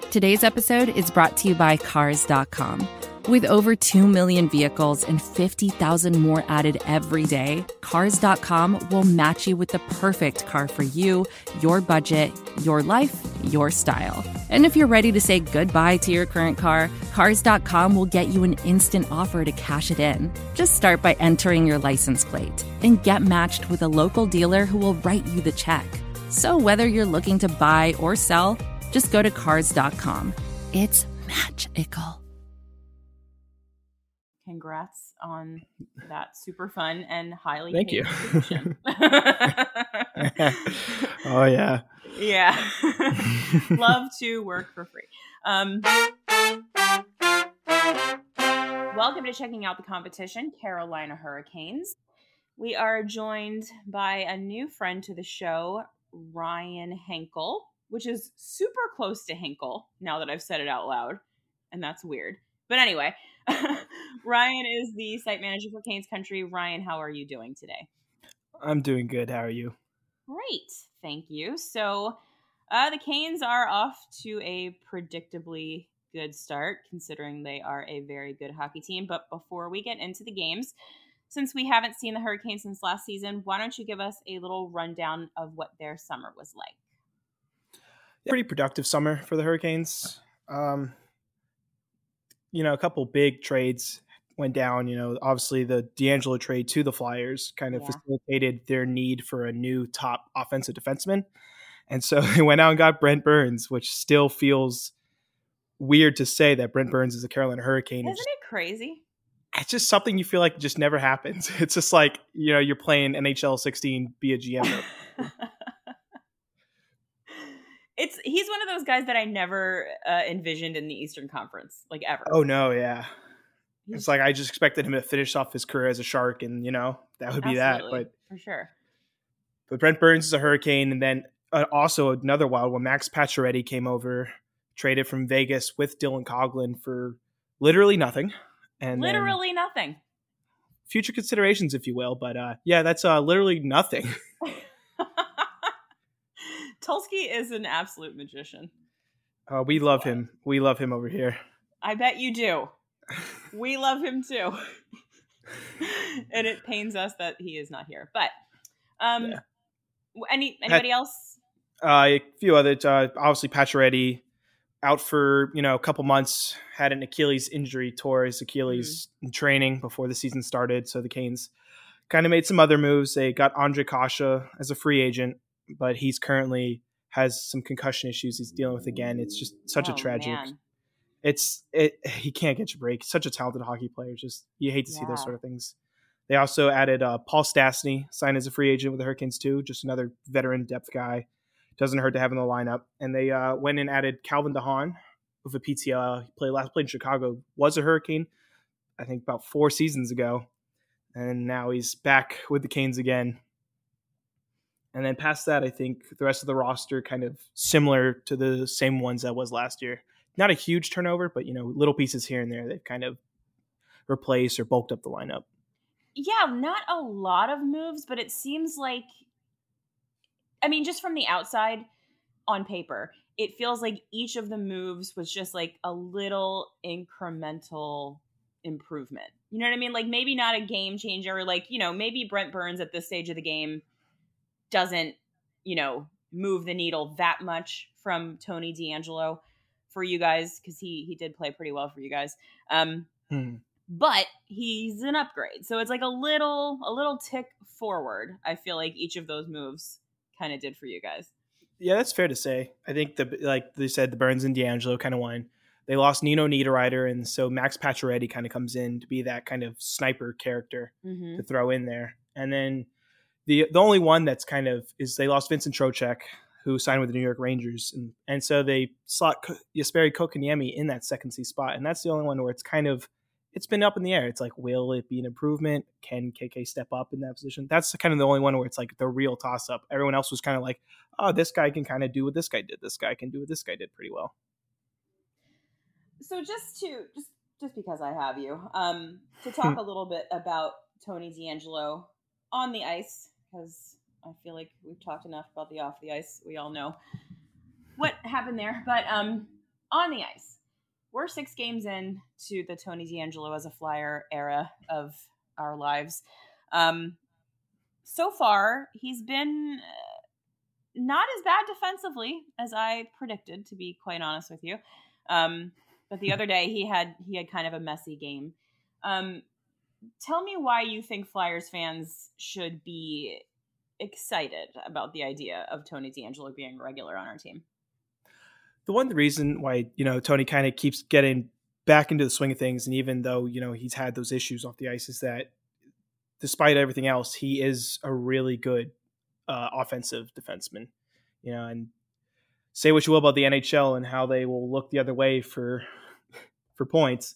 Today's episode is brought to you by Cars.com. With over 2 million vehicles and 50,000 more added every day, Cars.com will match you with the perfect car for you, your budget, your life, your style. And if you're ready to say goodbye to your current car, Cars.com will get you an instant offer to cash it in. Just start by entering your license plate and get matched with a local dealer who will write you the check. So whether you're looking to buy or sell, just go to Cars.com. It's magical. Congrats on that super fun and highly Thank you. position. Oh, yeah. Yeah. Love to work for free. Welcome to Checking Out the Competition, Carolina Hurricanes. We are joined by a new friend to the show, Ryan Henkel, which is super close to Hinkle now that I've said it out loud, and that's weird. But anyway, Ryan is the site manager for Canes Country. Ryan, how are you doing today? I'm doing good. How are you? Great. Thank you. So the Canes are off to a predictably good start, considering they are a very good hockey team. But before we get into the games, since we haven't seen the Hurricanes since last season, why don't you give us a little rundown of what their summer was like? Pretty productive summer for the Hurricanes. A couple big trades went down. Obviously the D'Angelo trade to the Flyers kind of facilitated their need for a new top offensive defenseman. And so they went out and got Brent Burns, which still feels weird to say that Brent Burns is a Carolina Hurricane. Isn't it crazy? It's just something you feel like just never happens. It's just like, you're playing NHL 16, be a GM. He's one of those guys that I never envisioned in the Eastern Conference, like ever. Oh no, yeah. It's like I just expected him to finish off his career as a Shark, and that would be that. But for sure. But Brent Burns is a Hurricane, and then also another wild one. Max Pacioretty came over, traded from Vegas with Dylan Coghlan for literally nothing, and literally nothing. Future considerations, if you will. But that's literally nothing. Tulsky is an absolute magician. We love him. We love him over here. I bet you do. We love him too. And it pains us that he is not here. But anybody else? A few other. Obviously, Pacioretty out for a couple months. Had an Achilles injury, tore his Achilles in training before the season started. So the Canes kind of made some other moves. They got Andre Kasha as a free agent, but he's currently has some concussion issues he's dealing with again. It's just such a tragic. Man. He can't get your break. Such a talented hockey player. Just you hate to see those sort of things. They also added Paul Stastny, signed as a free agent with the Hurricanes too. Just another veteran depth guy. Doesn't hurt to have in the lineup. And they went and added Calvin DeHaan with a PTL. He played in Chicago. Was a Hurricane, I think about 4 seasons ago, and now he's back with the Canes again. And then past that, I think the rest of the roster kind of similar to the same ones that was last year. Not a huge turnover, but little pieces here and there they've kind of replaced or bulked up the lineup. Yeah, not a lot of moves, but it seems like, just from the outside on paper, it feels like each of the moves was just like a little incremental improvement. You know what I mean? Like maybe not a game changer, like, maybe Brent Burns at this stage of the game doesn't, move the needle that much from Tony D'Angelo for you guys, because he did play pretty well for you guys. But he's an upgrade. So it's like a little tick forward, I feel like each of those moves kind of did for you guys. Yeah, that's fair to say. I think like they said, the Burns and D'Angelo kind of won. They lost Nino Niederreiter, and so Max Pacioretty kind of comes in to be that kind of sniper character to throw in there. And then the only one that's kind of is they lost Vincent Trocheck, who signed with the New York Rangers, and so they slot Jesperi Kotkaniemi in that second C spot, and that's the only one where it's been up in the air. It's like, will it be an improvement? Can KK step up in that position? That's kind of the only one where it's like the real toss up. Everyone else was kind of like, oh, this guy can kind of do what this guy did. This guy can do what this guy did pretty well. So just because I have you, to talk a little bit about Tony D'Angelo on the ice, because I feel like we've talked enough about the off the ice. We all know what happened there. But on the ice. We're 6 games in to the Tony DeAngelo as a Flyer era of our lives. So far, he's been not as bad defensively as I predicted, to be quite honest with you. But the other day, he had kind of a messy game. Tell me why you think Flyers fans should be excited about the idea of Tony DeAngelo being a regular on our team. The one reason why, Tony kind of keeps getting back into the swing of things, and even though, he's had those issues off the ice, is that despite everything else, he is a really good offensive defenseman, and say what you will about the NHL and how they will look the other way for points.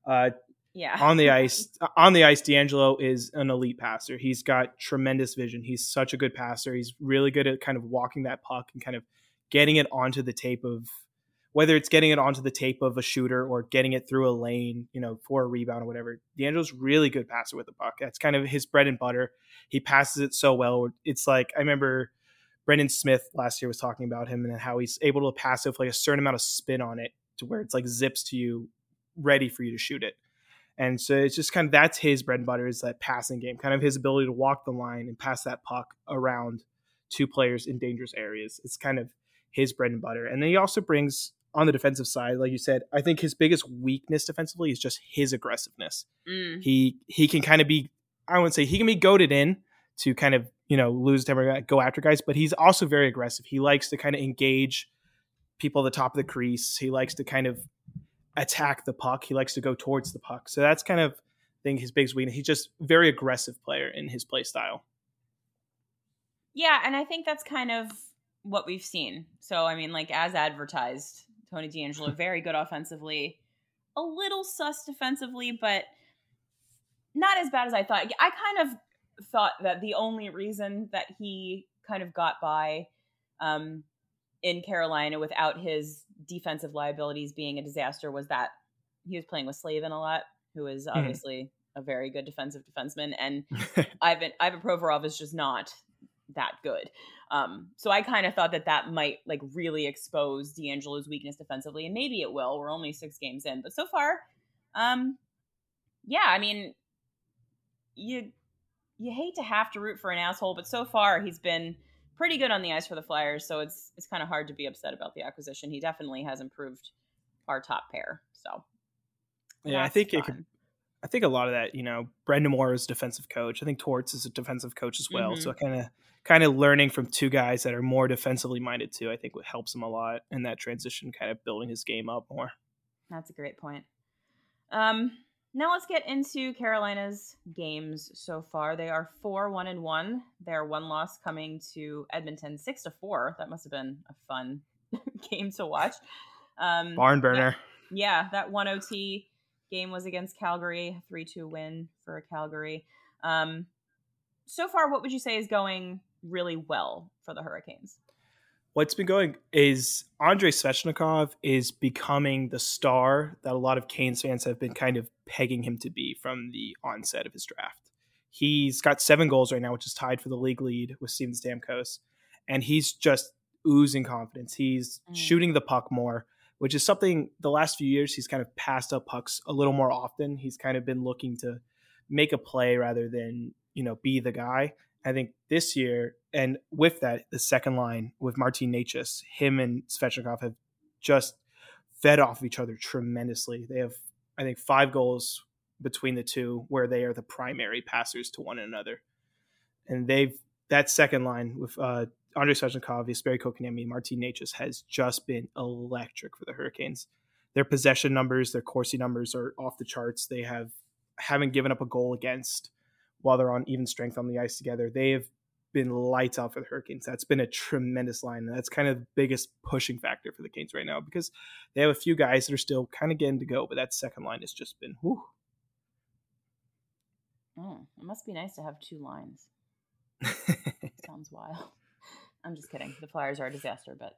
On the ice, DeAngelo is an elite passer. He's got tremendous vision. He's such a good passer. He's really good at kind of walking that puck and kind of getting it onto the tape of, whether it's getting it onto the tape of a shooter or getting it through a lane, for a rebound or whatever. DeAngelo's really good passer with the puck. That's kind of his bread and butter. He passes it so well. It's like, I remember Brendan Smith last year was talking about him and how he's able to pass it with like a certain amount of spin on it to where it's like zips to you, ready for you to shoot it. And so it's just kind of, that's his bread and butter, is that passing game, kind of his ability to walk the line and pass that puck around 2 players in dangerous areas. It's kind of his bread and butter. And then he also brings, on the defensive side, like you said, I think his biggest weakness defensively is just his aggressiveness. He can kind of be, I wouldn't say he can be goaded in to kind of, lose temper, go after guys, but he's also very aggressive. He likes to kind of engage people at the top of the crease. He likes to kind of attack the puck. He likes to go towards the puck. So that's kind of, I think, his biggest weakness. He's just a very aggressive player in his play style. Yeah, and I think that's kind of what we've seen. So, I mean, like, as advertised, Tony DeAngelo, very good offensively, a little sus defensively, but not as bad as I thought. I kind of thought that the only reason that he kind of got by in Carolina without his defensive liabilities being a disaster was that he was playing with Slavin a lot, who is obviously a very good defensive defenseman, and Ivan Provorov is just not that good. So I kind of thought that might like really expose DeAngelo's weakness defensively, and maybe it will. We're only 6 games in, but so far, yeah, I mean, you hate to have to root for an asshole, but so far he's been pretty good on the ice for the Flyers, so it's kind of hard to be upset about the acquisition. He definitely has improved our top pair. So yeah, I think a lot of that, Brendan Moore is a defensive coach. I think Torts is a defensive coach as well. So kind of learning from 2 guys that are more defensively minded too, I think what helps him a lot in that transition, kind of building his game up more. That's a great point. Now let's get into Carolina's games so far. They are 4-1-1. Their one loss coming to Edmonton 6-4. That must have been a fun game to watch. Barn burner. Yeah, that 1 OT game was against Calgary, 3-2 win for Calgary. So far, what would you say is going really well for the Hurricanes? What's been going is Andrei Svechnikov is becoming the star that a lot of Canes fans have been kind of pegging him to be from the onset of his draft. He's got 7 goals right now, which is tied for the league lead with Steven Stamkos. And he's just oozing confidence. He's shooting the puck more, which is something the last few years he's kind of passed up pucks a little more often. He's kind of been looking to make a play rather than, be the guy. I think this year, and with that, the second line with Martin Necas, him and Svechnikov have just fed off each other tremendously. They have, I think, 5 goals between the two where they are the primary passers to one another. And that second line with Andrei Svechnikov, Jesperi Kotkaniemi, Martin Necas has just been electric for the Hurricanes. Their possession numbers, their Corsi numbers are off the charts. They haven't given up a goal against while they're on even strength on the ice together. They have been lights out for the Hurricanes. That's been a tremendous line. And that's kind of the biggest pushing factor for the Canes right now because they have a few guys that are still kind of getting to go, but that second line has just been, whew. It must be nice to have 2 lines. Sounds wild. I'm just kidding. The Flyers are a disaster, but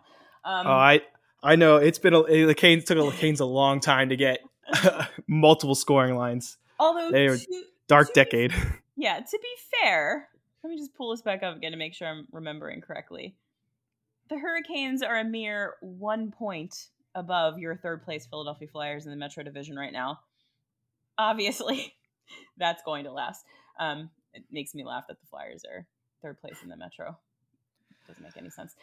I know it's been the Canes took the Canes a long time to get multiple scoring lines. Although they were dark decade. Yeah, to be fair, let me just pull this back up again to make sure I'm remembering correctly. The Hurricanes are a mere 1 point above your third place Philadelphia Flyers in the Metro Division right now. Obviously, that's going to last. It makes me laugh that the Flyers are third place in the Metro. Doesn't make any sense.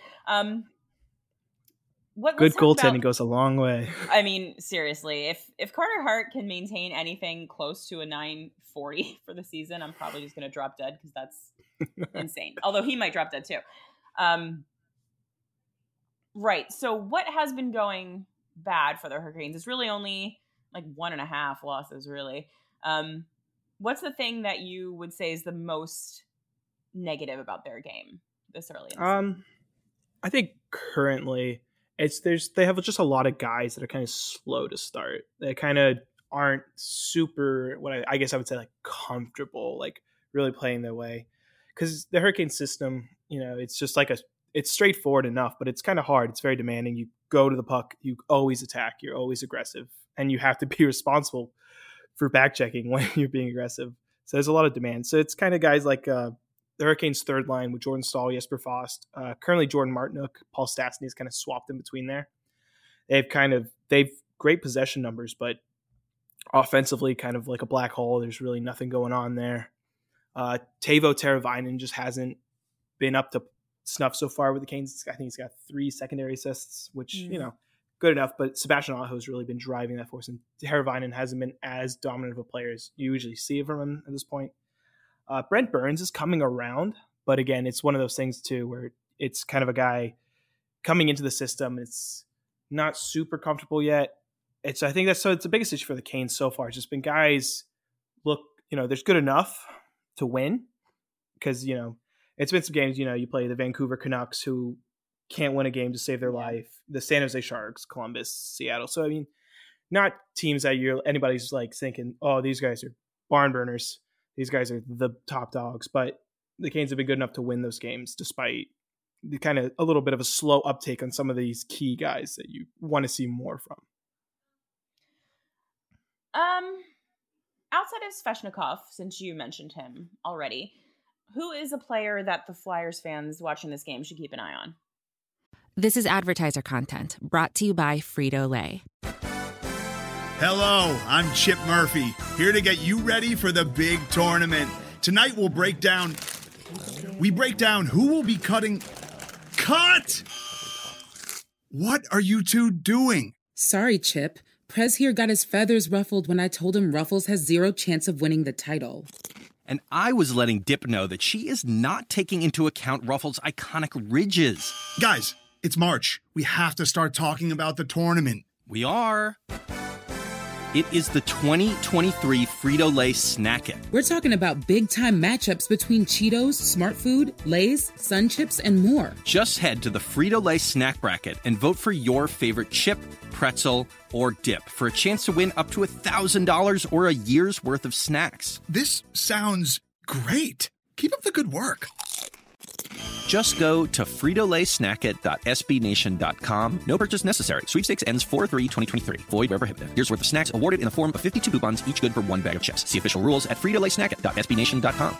Good goaltending goes a long way. I mean, seriously, if Carter Hart can maintain anything close to a 940 for the season, I'm probably just going to drop dead because that's insane. Although he might drop dead too. Right. So what has been going bad for the Hurricanes? It's really only like 1.5 losses, really. What's the thing that you would say is the most negative about their game this early in the season? I think currently they have just a lot of guys that are kind of slow to start. They kind of aren't super, I guess I would say, like comfortable, like really playing their way. Because the Hurricane system, it's just like it's straightforward enough, but it's kind of hard. It's very demanding. You go to the puck, you always attack, you're always aggressive, and you have to be responsible for back checking when you're being aggressive. So there's a lot of demand. So it's kind of guys like the Hurricanes' third line with Jordan Staal, Jesper Fast, currently Jordan Martinook, Paul Stastny is kind of swapped in between there. They've great possession numbers, but offensively kind of like a black hole. There's really nothing going on there. Teuvo Teravainen just hasn't been up to snuff so far with the Canes. I think he's got 3 secondary assists, which, good enough, but Sebastian Aho has really been driving that force, and Teravainen hasn't been as dominant of a player as you usually see from him at this point. Brent Burns is coming around, but again, it's one of those things too where it's kind of a guy coming into the system. It's not super comfortable yet. It's the biggest issue for the Canes so far. It's just been guys there's good enough to win because, it's been some games, you play the Vancouver Canucks who can't win a game to save their life, the San Jose Sharks, Columbus, Seattle. So, I mean, not teams that anybody's like thinking, oh, these guys are barn burners. These guys are the top dogs, but the Canes have been good enough to win those games despite the kind of a little bit of a slow uptake on some of these key guys that you want to see more from. Outside of Svechnikov, since you mentioned him already, who is a player that the Flyers fans watching this game should keep an eye on? This is advertiser content brought to you by Frito-Lay. Hello, I'm Chip Murphy, here to get you ready for the big tournament. Tonight we'll break down who will be cutting. Cut! What are you two doing? Sorry, Chip. Prez here got his feathers ruffled when I told him Ruffles has 0 chance of winning the title. And I was letting Dip know that she is not taking into account Ruffles' iconic ridges. Guys, it's March. We have to start talking about the tournament. We are. It is the 2023 Frito-Lay Snack It. We're talking about big-time matchups between Cheetos, Smart Food, Lay's, Sun Chips, and more. Just head to the Frito-Lay Snack Bracket and vote for your favorite chip, pretzel, or dip for a chance to win up to $1,000 or a year's worth of snacks. This sounds great. Keep up the good work. Just go to fritolaysnackit.sbnation.com. No purchase necessary. Sweepstakes ends 4/3/2023. Void where prohibited. Here's worth of snacks awarded in the form of 52 coupons, each good for 1 bag of chips. See official rules at fritolaysnackit.sbnation.com.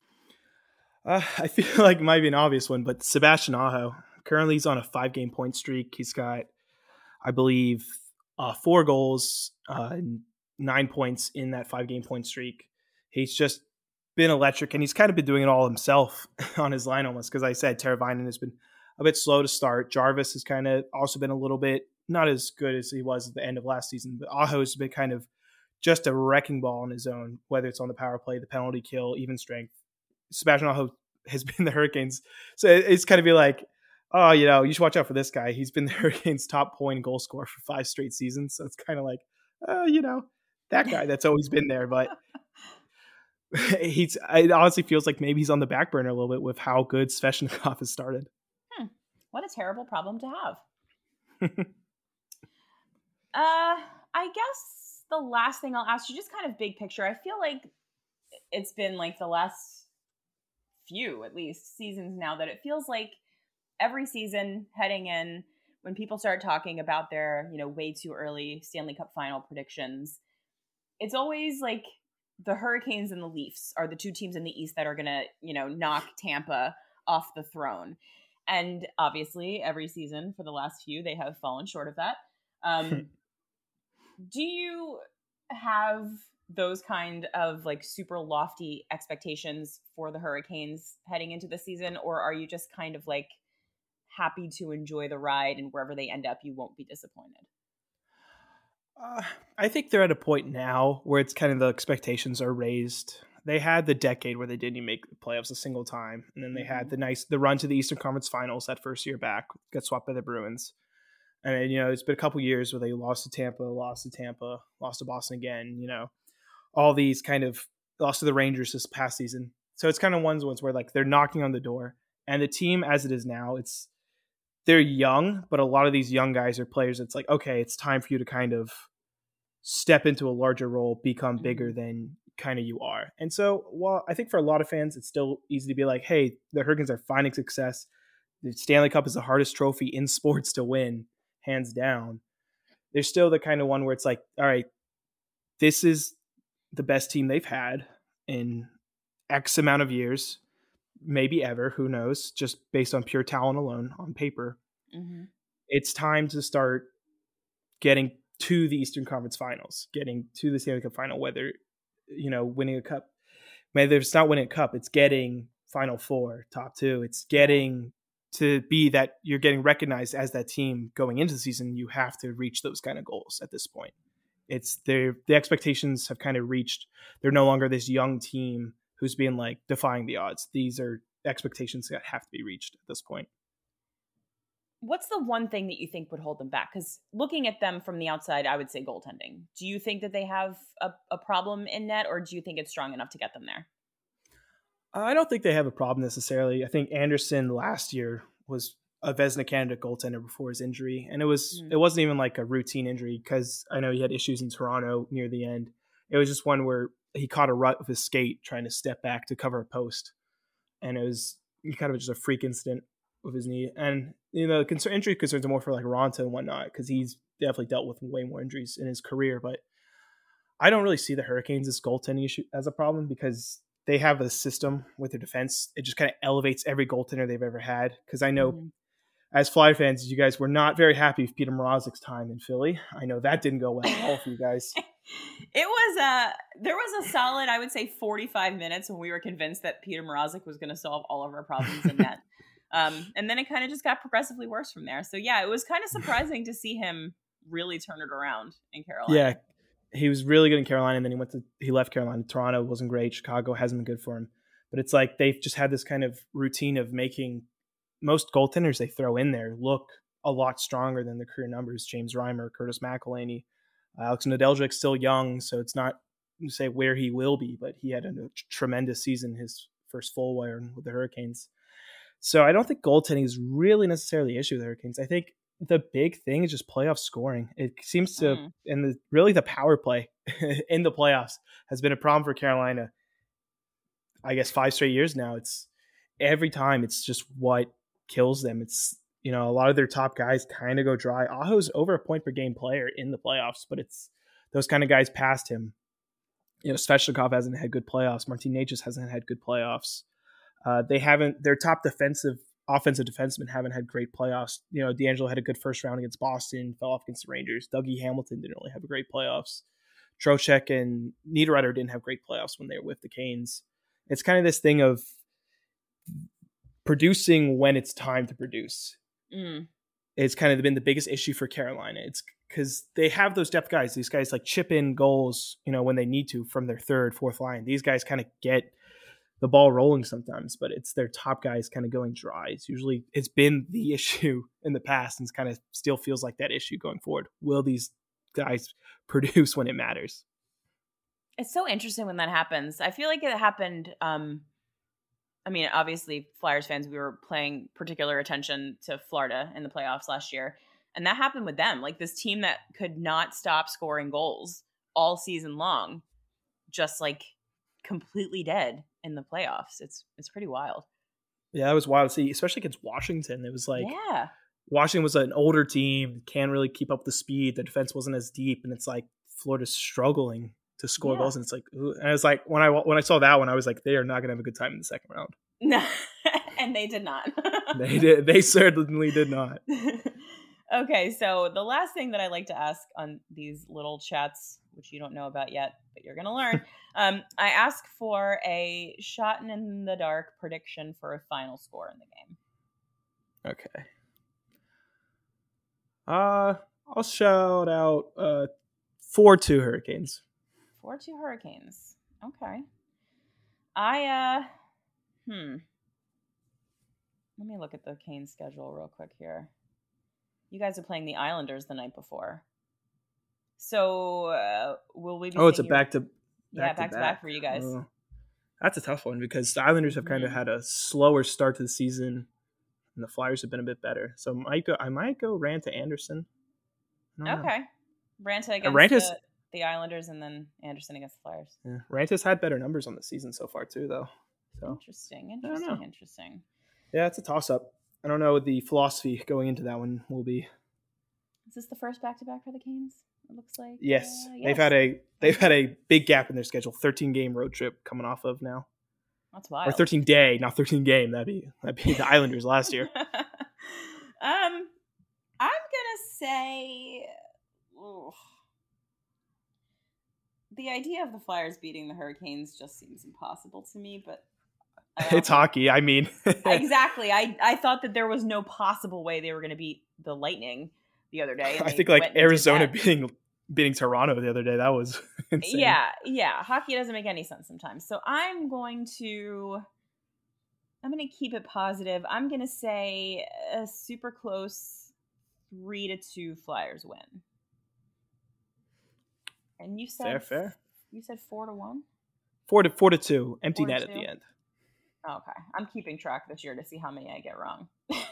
I feel like it might be an obvious one, but Sebastian Aho. Currently, he's on a 5-game point streak. He's got, I believe, 4 goals, 9 points in that 5-game point streak. He's just been electric, and he's kind of been doing it all himself on his line almost, because I said Teravainen has been a bit slow to start. Jarvis has kind of also been a little bit not as good as he was at the end of last season, but Aho has been kind of just a wrecking ball on his own, whether it's on the power play, the penalty kill, even strength. Sebastian Aho has been the Hurricanes. So it's kind of be like, oh, you should watch out for this guy. He's been the Hurricanes' top point goal scorer for 5 straight seasons. So it's kind of like, that guy that's always been there, but it honestly feels like maybe he's on the back burner a little bit with how good Svechnikov has started. What a terrible problem to have. I guess the last thing I'll ask you, just kind of big picture. I feel like it's been like the last few, at least, seasons now that it feels like every season heading in, when people start talking about their, way too early Stanley Cup final predictions, it's always like the Hurricanes and the Leafs are the 2 teams in the East that are going to, knock Tampa off the throne. And obviously every season for the last few, they have fallen short of that. Do you have those kind of like super lofty expectations for the Hurricanes heading into the season, or are you just kind of like happy to enjoy the ride and wherever they end up, you won't be disappointed? I think they're at a point now where it's kind of the expectations are raised. They had the decade where they didn't even make the playoffs a single time, and then they had the run to the Eastern Conference Finals that first year back, got swept by the Bruins. And it's been a couple years where they lost to Tampa, lost to Boston again. All these kind of lost to the Rangers this past season. So it's kind of ones where like they're knocking on the door, and the team as it is now, they're young, but a lot of these young guys are players. It's like, okay, it's time for you to kind of step into a larger role, become bigger than kind of you are. And so, while I think for a lot of fans, it's still easy to be like, hey, the Hurricanes are finding success. The Stanley Cup is the hardest trophy in sports to win, hands down. There's still the kind of one where it's like, all right, this is the best team they've had in X amount of years, maybe ever, who knows, just based on pure talent alone on paper. It's time to start getting to the Eastern Conference Finals, getting to the Stanley Cup final, whether, winning a cup, whether it's not winning a cup, it's getting Final Four, top two. It's getting to be that you're getting recognized as that team going into the season. You have to reach those kind of goals at this point. It's the expectations have kind of reached. They're no longer this young team who's being like defying the odds. These are expectations that have to be reached at this point. What's the one thing that you think would hold them back? Because looking at them from the outside, I would say goaltending. Do you think that they have a problem in net, or do you think it's strong enough to get them there? I don't think they have a problem necessarily. I think Anderson last year was a Vezina candidate goaltender before his injury, and it wasn't even like a routine injury, because I know he had issues in Toronto near the end. It was just one where he caught a rut with his skate trying to step back to cover a post, and it was kind of just a freak incident with his knee. And injury concerns are more for like Ronta and whatnot, because he's definitely dealt with way more injuries in his career. But I don't really see the Hurricanes' goaltending issue as a problem, because they have a system with their defense. It just kind of elevates every goaltender they've ever had. Because I know as Fly fans, you guys were not very happy with Peter Mrazek's time in Philly. I know that didn't go well at all for you guys. There was a solid, I would say, 45 minutes when we were convinced that Peter Mrazek was going to solve all of our problems in net. And then it kind of just got progressively worse from there. So yeah, it was kind of surprising to see him really turn it around in Carolina. Yeah, he was really good in Carolina, and then he left Carolina. Toronto wasn't great. Chicago hasn't been good for him. But it's like they've just had this kind of routine of making most goaltenders they throw in there look a lot stronger than their career numbers. James Reimer, Curtis McElhinney, Alex Nedeljik's still young, so it's not to say where he will be, but he had a tremendous season, his first full year with the Hurricanes. So I don't think goaltending is really necessarily an issue with the Hurricanes. I think the big thing is just playoff scoring. It seems to, and really the power play in the playoffs has been a problem for Carolina. I guess 5 straight years now. It's every time it's just what kills them. It's, a lot of their top guys kind of go dry. Aho's over a point per game player in the playoffs, but it's those kind of guys past him. Svechnikov hasn't had good playoffs. Martin Necas hasn't had good playoffs. Their top offensive defensemen haven't had great playoffs. D'Angelo had a good first round against Boston, fell off against the Rangers. Dougie Hamilton didn't really have a great playoffs. Trocheck and Niederreiter didn't have great playoffs when they were with the Canes. It's kind of this thing of producing when it's time to produce. It's kind of been the biggest issue for Carolina. It's because they have those depth guys. These guys like chip in goals, when they need to from their third, fourth line. These guys kind of get the ball rolling sometimes, but it's their top guys kind of going dry. It's been the issue in the past, and it's kind of still feels like that issue going forward. Will these guys produce when it matters? It's so interesting when that happens. I feel like it happened. Obviously Flyers fans, we were paying particular attention to Florida in the playoffs last year. And that happened with them. Like this team that could not stop scoring goals all season long, just like completely dead in the playoffs. It's pretty wild. Yeah, that was wild to see, especially against Washington. It was like, Washington was an older team, can't really keep up the speed. The defense wasn't as deep, and it's like Florida's struggling to score goals. And it's like, ooh. And I was like, when I saw that one, I was like, they are not going to have a good time in the second round. No, and they did not. They certainly did not. Okay, so the last thing that I like to ask on these little chats, which you don't know about yet, but you're going to learn, I ask for a shot in the dark prediction for a final score in the game. Okay. I'll shout out 4-2 Hurricanes. 4-2 Hurricanes. Okay. Let me look at the Canes schedule real quick here. You guys are playing the Islanders the night before. So will we be it's a back-to-back for you guys. That's a tough one because the Islanders have kind of had a slower start to the season and the Flyers have been a bit better. So I might go Raanta Anderson. Okay. Raanta against the Islanders and then Anderson against the Flyers. Yeah. Ranta's had better numbers on the season so far too, though. So Interesting. Yeah, it's a toss-up. I don't know what the philosophy going into that one will be. Is this the first back-to-back for the Canes? It looks like. Yes. Yes. They've had a big gap in their schedule. 13-game road trip coming off of now. That's wild. Or 13-day, not 13-game. That'd be the Islanders last year. I'm gonna say the idea of the Flyers beating the Hurricanes just seems impossible to me, but it's hockey. I mean, exactly. I thought that there was no possible way they were going to beat the Lightning the other day. I think like Arizona beating Toronto the other day. That was insane. Yeah. Hockey doesn't make any sense sometimes. So I'm going to keep it positive. I'm going to say a super close 3-2 Flyers win. And you said fair. You said 4-1? 4-2. Empty net at the end. Okay. I'm keeping track this year to see how many I get wrong.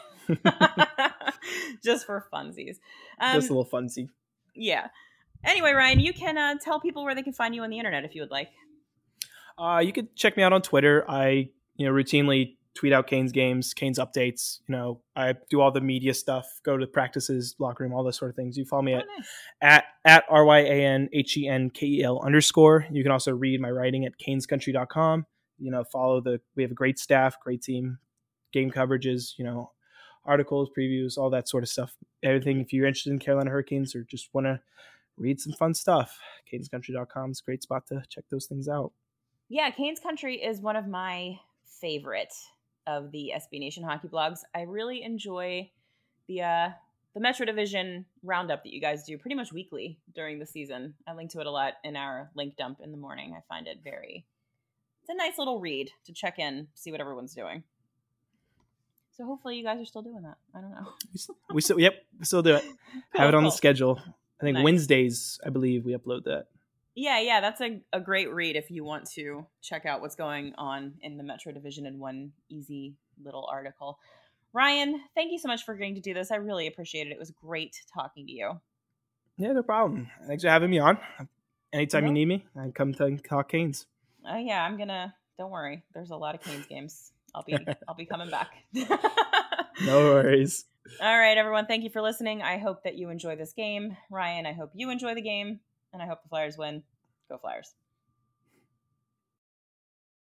Just for funsies. Just a little funsy. Yeah. Anyway, Ryan, you can tell people where they can find you on the internet if you would like. You could check me out on Twitter. I routinely tweet out Canes games, Canes updates. I do all the media stuff, go to practices, locker room, all those sort of things. You follow me at RyanHenkel _. You can also read my writing at canescountry.com. We have a great staff, great team, game coverages, articles, previews, all that sort of stuff. Everything. If you're interested in Carolina Hurricanes or just want to read some fun stuff, canescountry.com is a great spot to check those things out. Yeah, Canes Country is one of my favorite of the SB Nation hockey blogs. I really enjoy the Metro Division roundup that you guys do pretty much weekly during the season. I link to it a lot in our link dump in the morning. I find it it's a nice little read to check in, see what everyone's doing. So hopefully you guys are still doing that. I don't know. we still do it. Have it on the schedule. I think Wednesdays, I believe, we upload that. Yeah, that's a great read if you want to check out what's going on in the Metro Division in one easy little article. Ryan, thank you so much for agreeing to do this. I really appreciate it. It was great talking to you. Yeah, no problem. Thanks for having me on. Anytime you need me, I come to talk Canes. Yeah, don't worry. There's a lot of Canes games. I'll be coming back. No worries. All right, everyone. Thank you for listening. I hope that you enjoy this game. Ryan, I hope you enjoy the game. And I hope the Flyers win. Go Flyers.